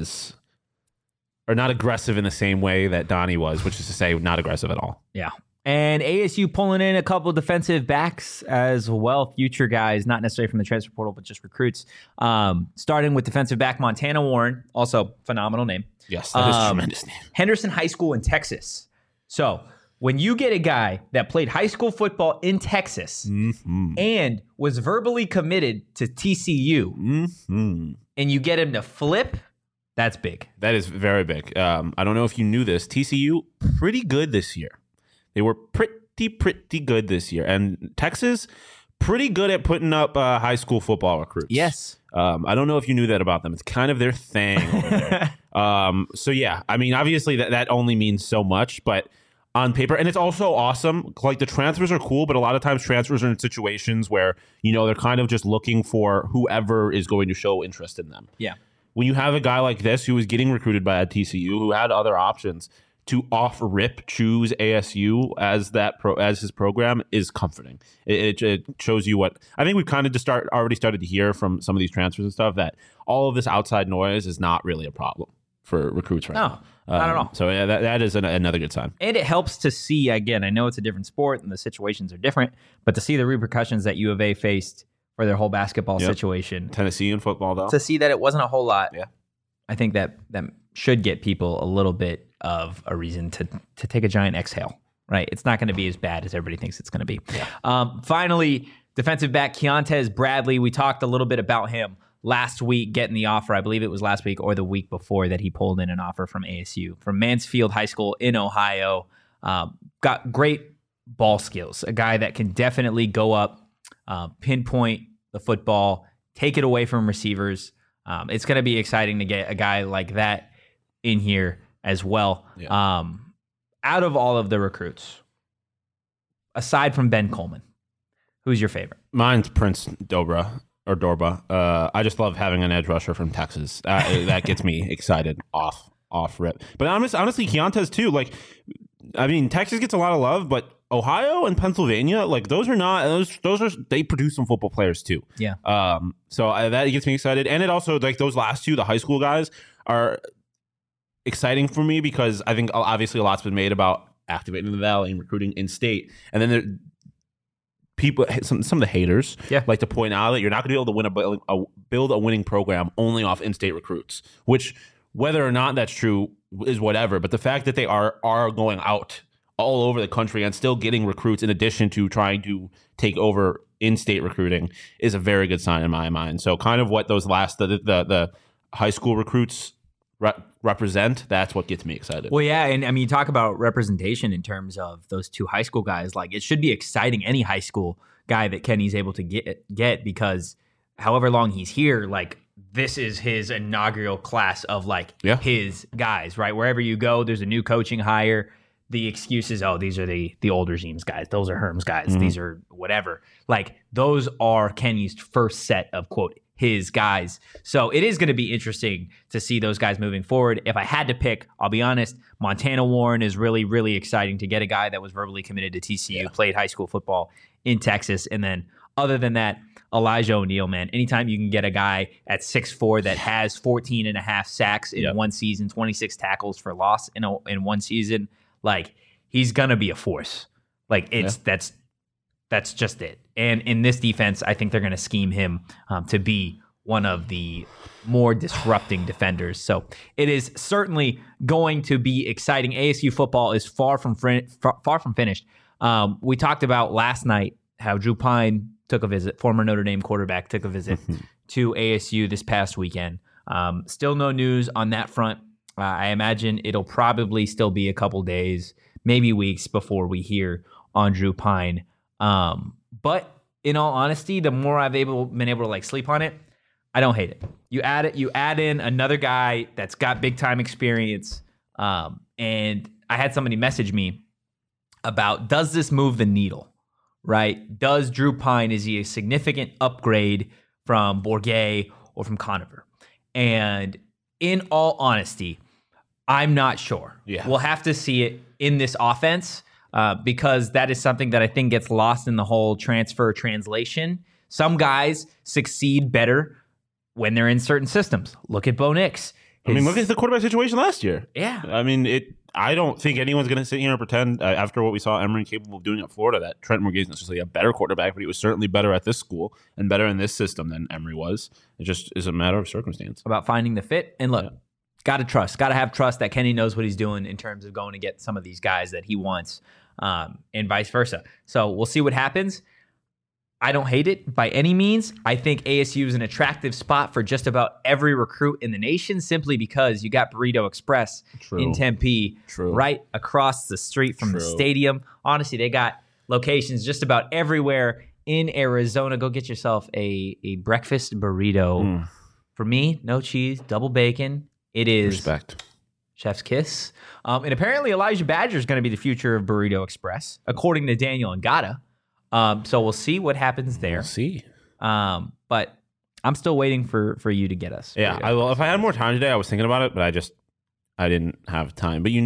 [SPEAKER 3] not aggressive in the same way that Donnie was, which is to say not aggressive at all.
[SPEAKER 1] Yeah. And ASU pulling in a couple of defensive backs as well, future guys, not necessarily from the transfer portal, but just recruits. Starting with defensive back Montana Warren, also phenomenal name.
[SPEAKER 3] Yes, that is a tremendous name.
[SPEAKER 1] Henderson High School in Texas. So when you get a guy that played high school football in Texas and was verbally committed to TCU, and you get him to flip, that's big.
[SPEAKER 3] That is very big. I don't know if you knew this. TCU, pretty good this year. They were pretty good this year. And Texas, pretty good at putting up high school football recruits.
[SPEAKER 1] Yes.
[SPEAKER 3] I don't know if you knew that about them. It's kind of their thing over there. So, yeah, I mean, obviously that only means so much, but on paper, and it's also awesome. Like, the transfers are cool, but a lot of times transfers are in situations where, they're kind of just looking for whoever is going to show interest in them.
[SPEAKER 1] Yeah.
[SPEAKER 3] When you have a guy like this who was getting recruited by a TCU, who had other options, to off-rip choose ASU as his program is comforting. It shows you what I think we've kind of already started to hear from some of these transfers and stuff, that all of this outside noise is not really a problem for recruits right now.
[SPEAKER 1] Not at all.
[SPEAKER 3] So yeah, that is another good sign.
[SPEAKER 1] And it helps to see, again, I know it's a different sport and the situations are different, but to see the repercussions that U of A faced for their whole basketball situation.
[SPEAKER 3] Tennessee in football, though.
[SPEAKER 1] To see that it wasn't a whole lot.
[SPEAKER 3] Yeah.
[SPEAKER 1] I think that should get people a little bit of a reason to take a giant exhale, right? It's not going to be as bad as everybody thinks it's going to be. Yeah. Finally, defensive back Keontez Bradley. We talked a little bit about him last week getting the offer. I believe it was last week or the week before that he pulled in an offer from ASU, from Mansfield High School in Ohio. Got great ball skills, a guy that can definitely go up, pinpoint the football, take it away from receivers. It's going to be exciting to get a guy like that in here as well. Yeah. Out of all of the recruits, aside from Ben Coleman, who's your favorite?
[SPEAKER 3] Mine's Prince Dorba. I just love having an edge rusher from Texas. That gets me excited off rip. But honestly, Keontez too. Like, I mean, Texas gets a lot of love, but Ohio and Pennsylvania, like those are they produce some football players too.
[SPEAKER 1] Yeah.
[SPEAKER 3] So that gets me excited, and it also, like, those last two, the high school guys, are exciting for me because I think obviously a lot's been made about activating the Valley and recruiting in state, and then people, some of the haters, like to point out that you're not going to be able to build a winning program only off in-state recruits, which, whether or not that's true is whatever. But the fact that they are going out all over the country and still getting recruits in addition to trying to take over in-state recruiting is a very good sign in my mind. So kind of what those last the high school recruits represent, that's what gets me excited.
[SPEAKER 1] Well, yeah, and I mean, you talk about representation in terms of those two high school guys. Like, it should be exciting, any high school guy that Kenny's able to get, because however long he's here, like, this is his inaugural class of his guys, right? Wherever you go, there's a new coaching hire. The excuse is, oh, these are the older Zeems guys. Those are Herm's guys. Mm-hmm. These are whatever. Like, those are Kenny's first set of, quote, his guys. So it is going to be interesting to see those guys moving forward. If I had to pick, I'll be honest, Montana Warren is really, really exciting to get a guy that was verbally committed to TCU, played high school football in Texas. And then other than that, Elijah O'Neal, man. Anytime you can get a guy at 6'4" that has 14 and a half sacks in one season, 26 tackles for loss in one season, like, he's going to be a force. Like, that's just it. And in this defense, I think they're going to scheme him to be one of the more disrupting defenders. So it is certainly going to be exciting. ASU football is far from finished. We talked about last night how Drew Pine took a visit, former Notre Dame quarterback, took a visit to ASU this past weekend. Still no news on that front. I imagine it'll probably still be a couple days, maybe weeks, before we hear on Drew Pine. But in all honesty, the more I've been able to like sleep on it, I don't hate it. You add in another guy that's got big time experience. And I had somebody message me about, does this move the needle, right? Does Drew Pine, is he a significant upgrade from Bourguet or from Conover? And in all honesty, I'm not sure. Yeah. We'll have to see it in this offense. Because that is something that I think gets lost in the whole transfer translation. Some guys succeed better when they're in certain systems. Look at Bo Nix.
[SPEAKER 3] Look at the quarterback situation last year.
[SPEAKER 1] Yeah.
[SPEAKER 3] I don't think anyone's going to sit here and pretend, after what we saw Emory capable of doing at Florida, that Trent Bourguet is necessarily a better quarterback, but he was certainly better at this school and better in this system than Emory was. It just is a matter of circumstance.
[SPEAKER 1] About finding the fit. And look, got to have trust that Kenny knows what he's doing in terms of going to get some of these guys that he wants. And vice versa. So we'll see what happens. I don't hate it by any means. I think ASU is an attractive spot for just about every recruit in the nation, simply because you got Burrito Express in Tempe, right across the street from the stadium. Honestly, they got locations just about everywhere in Arizona. Go get yourself a breakfast burrito. For me, no cheese, double bacon. It is
[SPEAKER 3] respect.
[SPEAKER 1] Chef's kiss. And apparently Elijah Badger is going to be the future of Burrito Express, according to Daniel Ngata. So we'll see what happens there.
[SPEAKER 3] We'll see.
[SPEAKER 1] But I'm still waiting for you to get us.
[SPEAKER 3] Yeah, I will. If I had more time today, I was thinking about it, but I didn't have time. But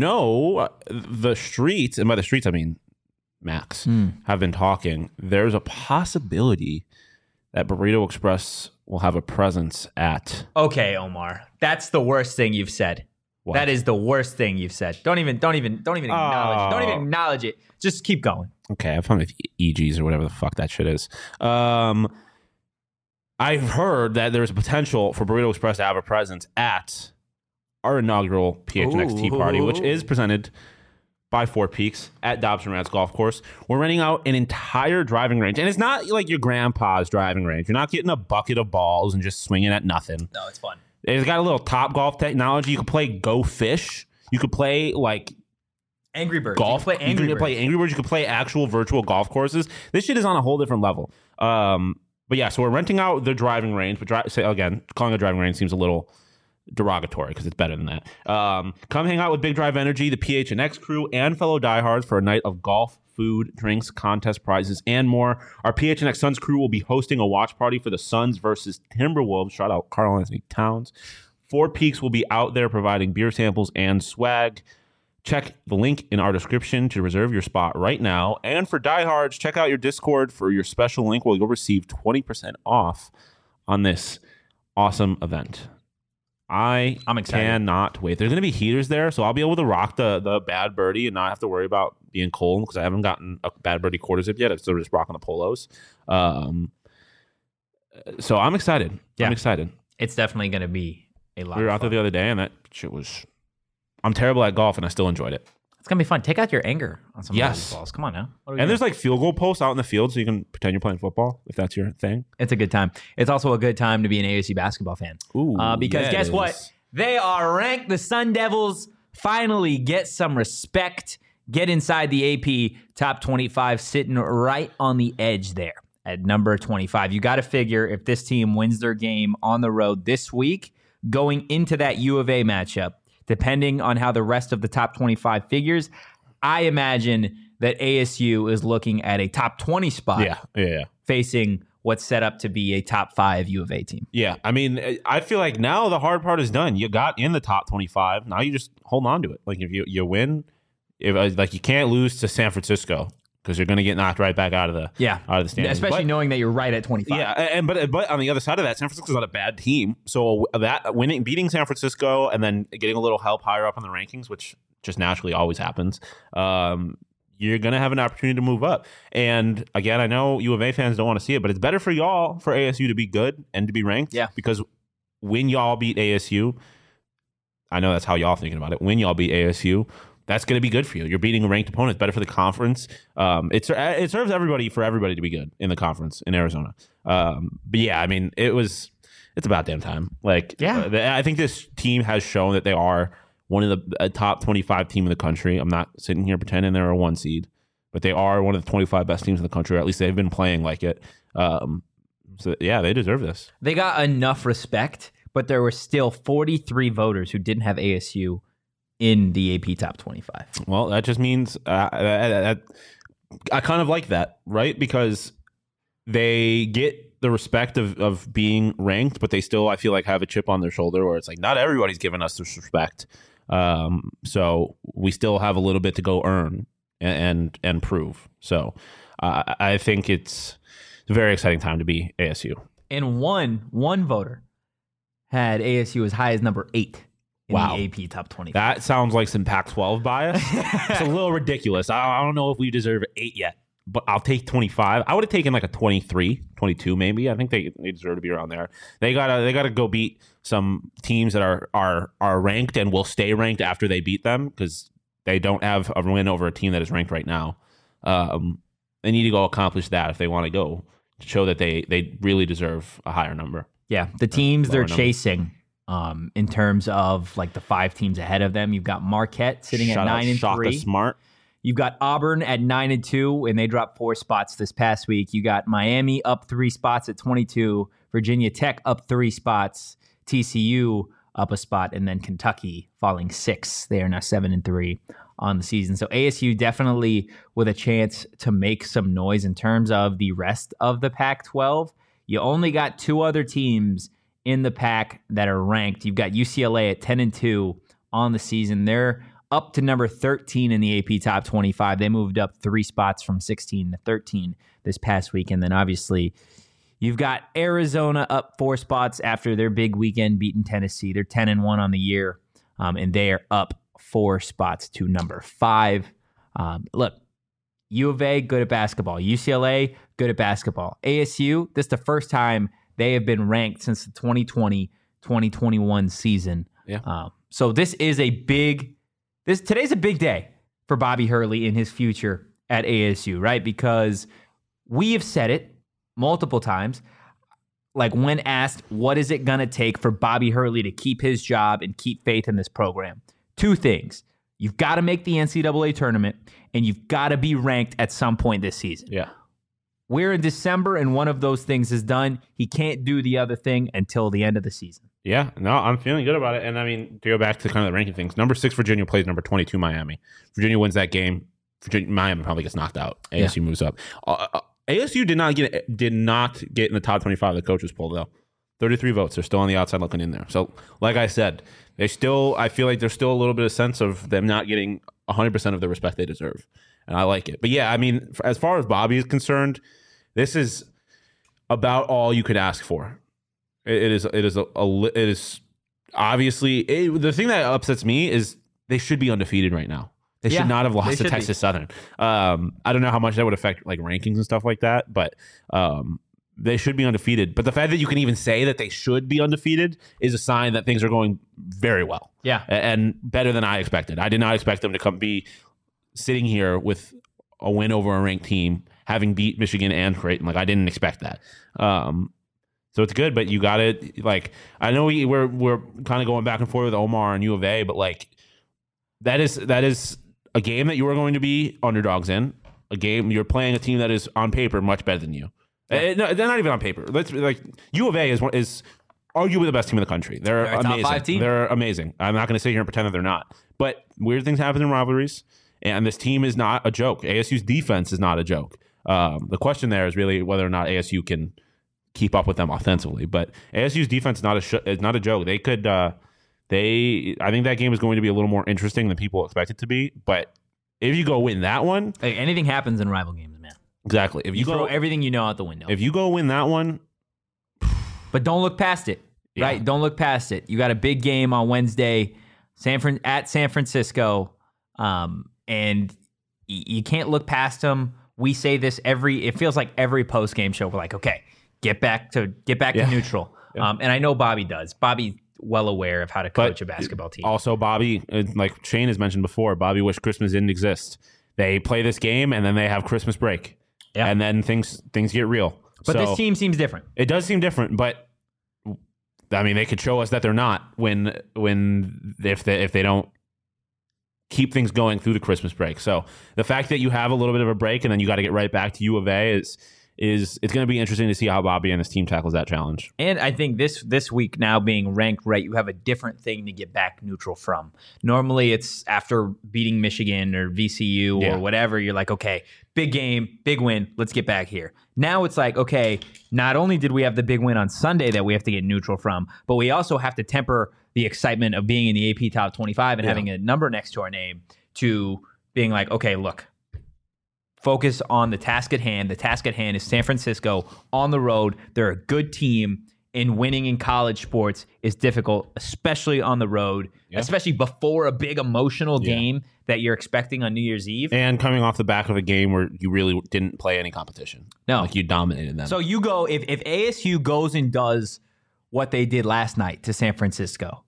[SPEAKER 3] the streets, and by the streets I mean Max, have been talking. There's a possibility that Burrito Express will have a presence at.
[SPEAKER 1] Okay, Omar, that's the worst thing you've said. What? That is the worst thing you've said. Don't even acknowledge it. Don't even acknowledge it. Just keep going.
[SPEAKER 3] Okay, I'm fine with EGs or whatever the fuck that shit is. I've heard that there's a potential for Burrito Express to have a presence at our inaugural PHNX Tea Party, which is presented by Four Peaks at Dobson Rats Golf Course. We're renting out an entire driving range. And it's not like your grandpa's driving range. You're not getting a bucket of balls and just swinging at nothing.
[SPEAKER 1] No, it's fun.
[SPEAKER 3] It's got a little Top Golf technology. You can play Go Fish. You could play like
[SPEAKER 1] Angry Birds.
[SPEAKER 3] golf.
[SPEAKER 1] You can play Angry Birds.
[SPEAKER 3] You could play actual virtual golf courses. This shit is on a whole different level. But yeah, so we're renting out the driving range. But again, calling a driving range seems a little derogatory because it's better than that. Come hang out with Big Drive Energy, the PHNX crew, and fellow diehards for a night of golf, food, drinks, contest prizes, and more. Our PHNX Suns crew will be hosting a watch party for the Suns versus Timberwolves. Shout out Karl Anthony Towns. Four Peaks will be out there providing beer samples and swag. Check the link in our description to reserve your spot right now. And for diehards, check out your Discord for your special link where you'll receive 20% off on this awesome event. I'm excited. Cannot wait. There's going to be heaters there, so I'll be able to rock the bad birdie and not have to worry about being cold because I haven't gotten a bad birdie quarter zip yet. I'm still just rocking the polos. So I'm excited. Yeah. I'm excited.
[SPEAKER 1] It's definitely going to be a lot.
[SPEAKER 3] We were out there the other day, and that shit was. I'm terrible at golf, and I still enjoyed it.
[SPEAKER 1] It's going to be fun. Take out your anger on some of these balls. Come on now.
[SPEAKER 3] And there's like field goal posts out in the field so you can pretend you're playing football if that's your thing.
[SPEAKER 1] It's a good time. It's also a good time to be an ASU basketball fan.
[SPEAKER 3] Ooh,
[SPEAKER 1] because guess what? They are ranked. The Sun Devils finally get some respect. Get inside the AP top 25, sitting right on the edge there at number 25. You got to figure if this team wins their game on the road this week, going into that U of A matchup, depending on how the rest of the top 25 figures, I imagine that ASU is looking at a top 20 spot facing what's set up to be a top 5 U of A team.
[SPEAKER 3] Yeah, I mean, I feel like now the hard part is done. You got in the top 25. Now you just hold on to it. Like if you win, like you can't lose to San Francisco because you're going to get knocked right back out of the standings.
[SPEAKER 1] Especially knowing that you're right at 25.
[SPEAKER 3] Yeah, but on the other side of that, San Francisco's not a bad team. So that beating San Francisco and then getting a little help higher up in the rankings, which just naturally always happens, you're going to have an opportunity to move up. And again, I know U of A fans don't want to see it, but it's better for y'all for ASU to be good and to be ranked. Yeah. Because when y'all beat ASU, I know that's how y'all thinking about it. When y'all beat ASU, that's going to be good for you. You're beating a ranked opponent. It's better for the conference. It serves everybody to be good in the conference in Arizona. But yeah, I mean, it's about damn time. I think this team has shown that they are one of the top 25 team in the country. I'm not sitting here pretending they're a 1 seed, but they are one of the 25 best teams in the country, or at least they've been playing like it. So yeah, they deserve this. They
[SPEAKER 1] got enough respect, but there were still 43 voters who didn't have ASU in the AP top 25.
[SPEAKER 3] Well, that just means I kind of like that, right? Because they get the respect of being ranked, but they still, I feel like, have a chip on their shoulder where it's like, not everybody's giving us this respect. So we still have a little bit to go earn and prove. So I think it's a very exciting time to be ASU.
[SPEAKER 1] And one voter had ASU as high as number 8. In the AP top 25.
[SPEAKER 3] That sounds like some Pac-12 bias. It's a little ridiculous. I don't know if we deserve 8 yet, but I'll take 25. I would have taken like a 23, 22 maybe. I think they deserve to be around there. They gotta go beat some teams that are ranked and will stay ranked after they beat them because they don't have a win over a team that is ranked right now. They need to go accomplish that if they want to go to show that they really deserve a higher number.
[SPEAKER 1] Yeah, the teams they're chasing. In terms of like the 5 teams ahead of them, you've got Marquette sitting at 9-3.
[SPEAKER 3] Smart.
[SPEAKER 1] You've got Auburn at 9-2, and they dropped 4 spots this past week. You got Miami up 3 spots at 22, Virginia Tech up 3 spots, TCU up a spot, and then Kentucky falling 6. They are now 7-3 on the season. So ASU definitely with a chance to make some noise in terms of the rest of the Pac-12. You only got 2 other teams in the pack that are ranked. You've got UCLA at 10-2 on the season. They're up to number 13 in the AP top 25. They moved up 3 spots from 16 to 13 this past week. And then obviously you've got Arizona up 4 spots after their big weekend beating Tennessee. They're 10-1 on the year. And they are up 4 spots to number 5. Look, U of A, good at basketball. UCLA, good at basketball. ASU, this is the first time they have been ranked since the 2020-2021 season.
[SPEAKER 3] Yeah.
[SPEAKER 1] So today's a big day for Bobby Hurley in his future at ASU, right? Because we have said it multiple times. Like when asked, what is it going to take for Bobby Hurley to keep his job and keep faith in this program? 2 things. You've got to make the NCAA tournament, and you've got to be ranked at some point this season.
[SPEAKER 3] Yeah.
[SPEAKER 1] We're in December, and one of those things is done. He can't do the other thing until the end of the season.
[SPEAKER 3] Yeah, no, I'm feeling good about it. And I mean, to go back to kind of the ranking things, number 6 Virginia plays number 22 Miami. Virginia wins that game. Miami probably gets knocked out. ASU moves up. ASU did not get in the top 25 the coaches poll though. 33 votes. They're still on the outside looking in there. So, like I said, I feel like there's still a little bit of sense of them not getting 100% of the respect they deserve, and I like it. But yeah, I mean, as far as Bobby is concerned, this is about all you could ask for. It is obviously the thing that upsets me is they should be undefeated right now. They should not have lost to Texas Southern. I don't know how much that would affect like rankings and stuff like that, but they should be undefeated. But the fact that you can even say that they should be undefeated is a sign that things are going very well.
[SPEAKER 1] Yeah,
[SPEAKER 3] and better than I expected. I did not expect them to be sitting here with a win over a ranked team, having beat Michigan and Creighton. Like I didn't expect that. So it's good, but you got it. Like I know we're kind of going back and forth with Omar and U of A, but like that is a game that you are going to be underdogs in. A game you're playing a team that is on paper much better than you. Yeah. No, they're not even on paper. U of A is arguably the best team in the country. They're amazing. Top 5 team. They're amazing. I'm not going to sit here and pretend that they're not. But weird things happen in rivalries, and this team is not a joke. ASU's defense is not a joke. The question there is really whether or not ASU can keep up with them offensively. But ASU's defense is not a joke. They could. I think that game is going to be a little more interesting than people expect it to be. But if you go win that one,
[SPEAKER 1] hey, anything happens in rival games, man.
[SPEAKER 3] Exactly. If you
[SPEAKER 1] throw everything you know out the window.
[SPEAKER 3] If you go win that one,
[SPEAKER 1] but don't look past it. Yeah. Right? Don't look past it. You got a big game on Wednesday, at San Francisco, and you can't look past them. We say this it feels like every post game show. We're like, okay, get back to neutral. Yeah. And I know Bobby does. Bobby's well aware of how to coach a basketball team.
[SPEAKER 3] Also, Bobby, like Shane has mentioned before, Bobby wished Christmas didn't exist. They play this game and then they have Christmas break. Yeah. And then things get real.
[SPEAKER 1] But this team seems different.
[SPEAKER 3] It does seem different, but I mean, they could show us that they're not if they don't keep things going through the Christmas break. So the fact that you have a little bit of a break and then you got to get right back to U of A is it's going to be interesting to see how Bobby and his team tackles that challenge.
[SPEAKER 1] And I think this week now being ranked right, you have a different thing to get back neutral from. Normally it's after beating Michigan or VCU or whatever, you're like, okay, big game, big win, let's get back here. Now it's like, okay, not only did we have the big win on Sunday that we have to get neutral from, but we also have to temper the excitement of being in the AP Top 25 and having a number next to our name to being like, okay, look, focus on the task at hand. The task at hand is San Francisco on the road. They're a good team, and winning in college sports is difficult, especially on the road, especially before a big emotional game that you're expecting on New Year's Eve.
[SPEAKER 3] And coming off the back of a game where you really didn't play any competition.
[SPEAKER 1] No.
[SPEAKER 3] Like you dominated them.
[SPEAKER 1] So you go, if ASU goes and does what they did last night to San Francisco,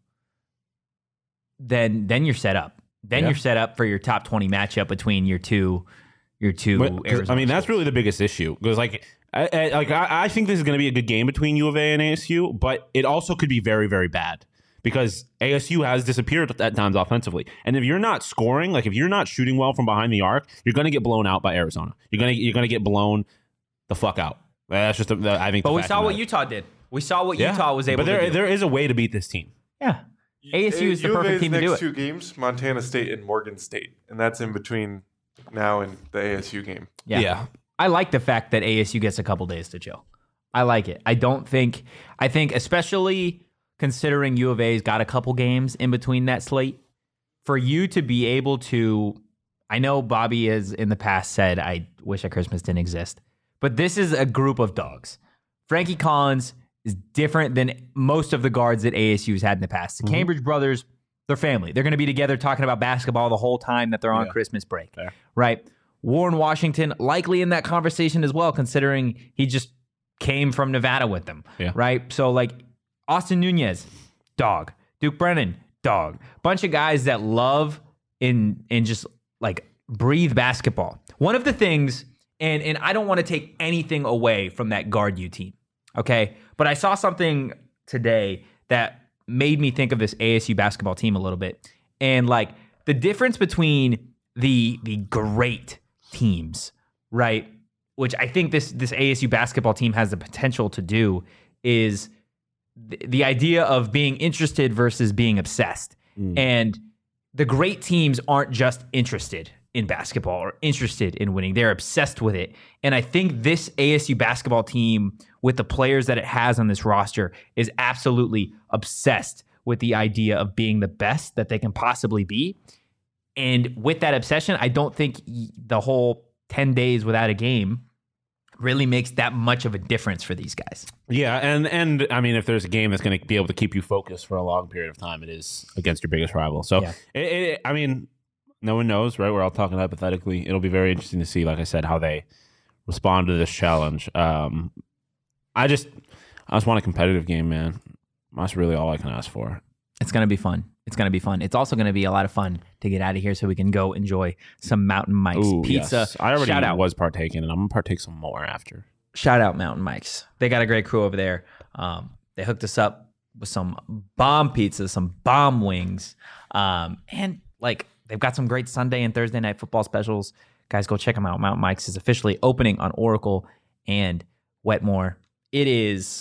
[SPEAKER 1] then you're set up. Then you're set up for your top 20 matchup between your two Arizona
[SPEAKER 3] I mean, that's really the biggest issue because, I think this is going to be a good game between U of A and ASU, but it also could be very, very bad because ASU has disappeared at times offensively, and if you're not scoring, like if you're not shooting well from behind the arc, you're going to get blown out by Arizona. You're going to get blown the fuck out. That's just I think.
[SPEAKER 1] But we saw what Utah did. We saw what Utah was able to do.
[SPEAKER 3] But there is a way to beat this team.
[SPEAKER 1] Yeah. ASU is the perfect team to do it.
[SPEAKER 5] Next 2 games, Montana State and Morgan State, and that's in between now and the ASU game.
[SPEAKER 1] Yeah. I like the fact that ASU gets a couple days to chill. I like it. I think especially considering U of A's got a couple games in between that slate, for you to be able to, I know Bobby has in the past said, I wish that Christmas didn't exist, but this is a group of dogs. Frankie Collins is different than most of the guards that ASU has had in the past. The Cambridge brothers, they're family. They're going to be together talking about basketball the whole time that they're on Christmas break, right? Warren Washington likely in that conversation as well, considering he just came from Nevada with them, right? So like Austin Nunez, dog. Duke Brennan, Bunch of guys that love and just like breathe basketball. One of the things, and I don't want to take anything away from that Guard U team, okay? But I saw something today that made me think of this ASU basketball team a little bit. And like the difference between the great teams, right? Which I think this ASU basketball team has the potential to do is the idea of being interested versus being obsessed. And the great teams aren't just interested in basketball or interested in winning. They're obsessed with it. And I think this ASU basketball team, with the players that it has on this roster, is absolutely obsessed with the idea of being the best that they can possibly be. And with that obsession, I don't think the whole 10 days without a game really makes that much of a difference for these guys.
[SPEAKER 3] Yeah, and I mean, if there's a game that's going to be able to keep you focused for a long period of time, it is against your biggest rival. So, I mean, no one knows, right? We're all talking hypothetically. It'll be very interesting to see, like I said, how they respond to this challenge. I just want a competitive game, man. That's really all I can ask for.
[SPEAKER 1] It's going to be fun. It's going to be fun. It's also going to be a lot of fun to get out of here so we can go enjoy some Mountain Mike's pizza.
[SPEAKER 3] Yes. I already was partaking, and I'm going to partake some more after.
[SPEAKER 1] Shout out Mountain Mike's. They got a great crew over there. They hooked us up with some bomb pizza, some bomb wings, and like they've got some great Sunday and Thursday night football specials. Guys, go check them out. Mountain Mike's is officially opening on Oracle and Wetmore. It is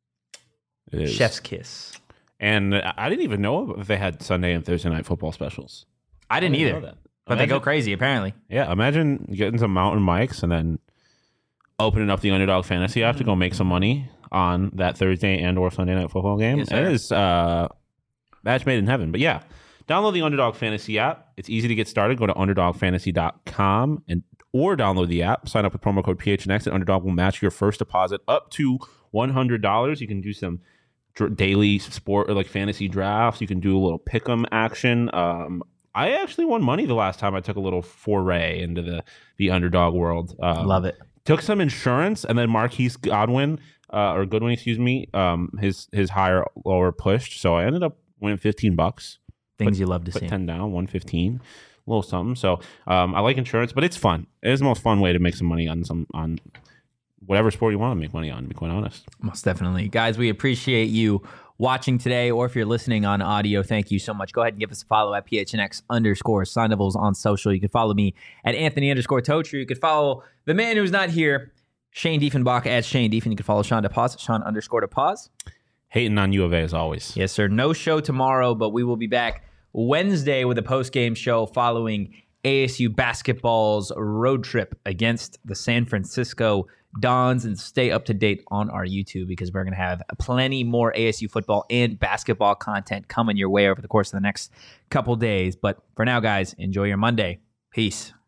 [SPEAKER 1] chef's kiss.
[SPEAKER 3] And I didn't even know if they had Sunday and Thursday night football specials.
[SPEAKER 1] I didn't either. But they go crazy, apparently.
[SPEAKER 3] Yeah, imagine getting some Mountain Mike's and then opening up the Underdog Fantasy app to go make some money on that Thursday and or Sunday night football game. Yes, it is match made in heaven. But yeah, download the Underdog Fantasy app. It's easy to get started. Go to UnderdogFantasy.com or download the app. Sign up with promo code PHNX, and Underdog will match your first deposit up to $100. You can do some daily sport or like fantasy drafts. You can do a little pick'em action. I actually won money the last time I took a little foray into the Underdog world.
[SPEAKER 1] Love it.
[SPEAKER 3] Took some insurance, and then Marquise Goodwin, excuse me, his higher lower pushed. So I ended up winning $15.
[SPEAKER 1] Things you love to see.
[SPEAKER 3] Put 10 down, 115, a little something. So I like insurance, but it's fun. It is the most fun way to make some money on whatever sport you want to make money on, to be quite honest.
[SPEAKER 1] Most definitely. Guys, we appreciate you watching today, or if you're listening on audio, thank you so much. Go ahead and give us a follow at PHNX_Sun Devils on social. You can follow me at Anthony_Tocher. You can follow the man who's not here, Shane Diefenbach at Shane Diefen. You can follow Sean DePaz, Sean_DePaz.
[SPEAKER 3] Hating on U of A as always.
[SPEAKER 1] Yes, sir. No show tomorrow, but we will be back Wednesday with a post-game show following ASU basketball's road trip against the San Francisco Dons, and stay up to date on our YouTube because we're going to have plenty more ASU football and basketball content coming your way over the course of the next couple days. But for now, guys, enjoy your Monday. Peace.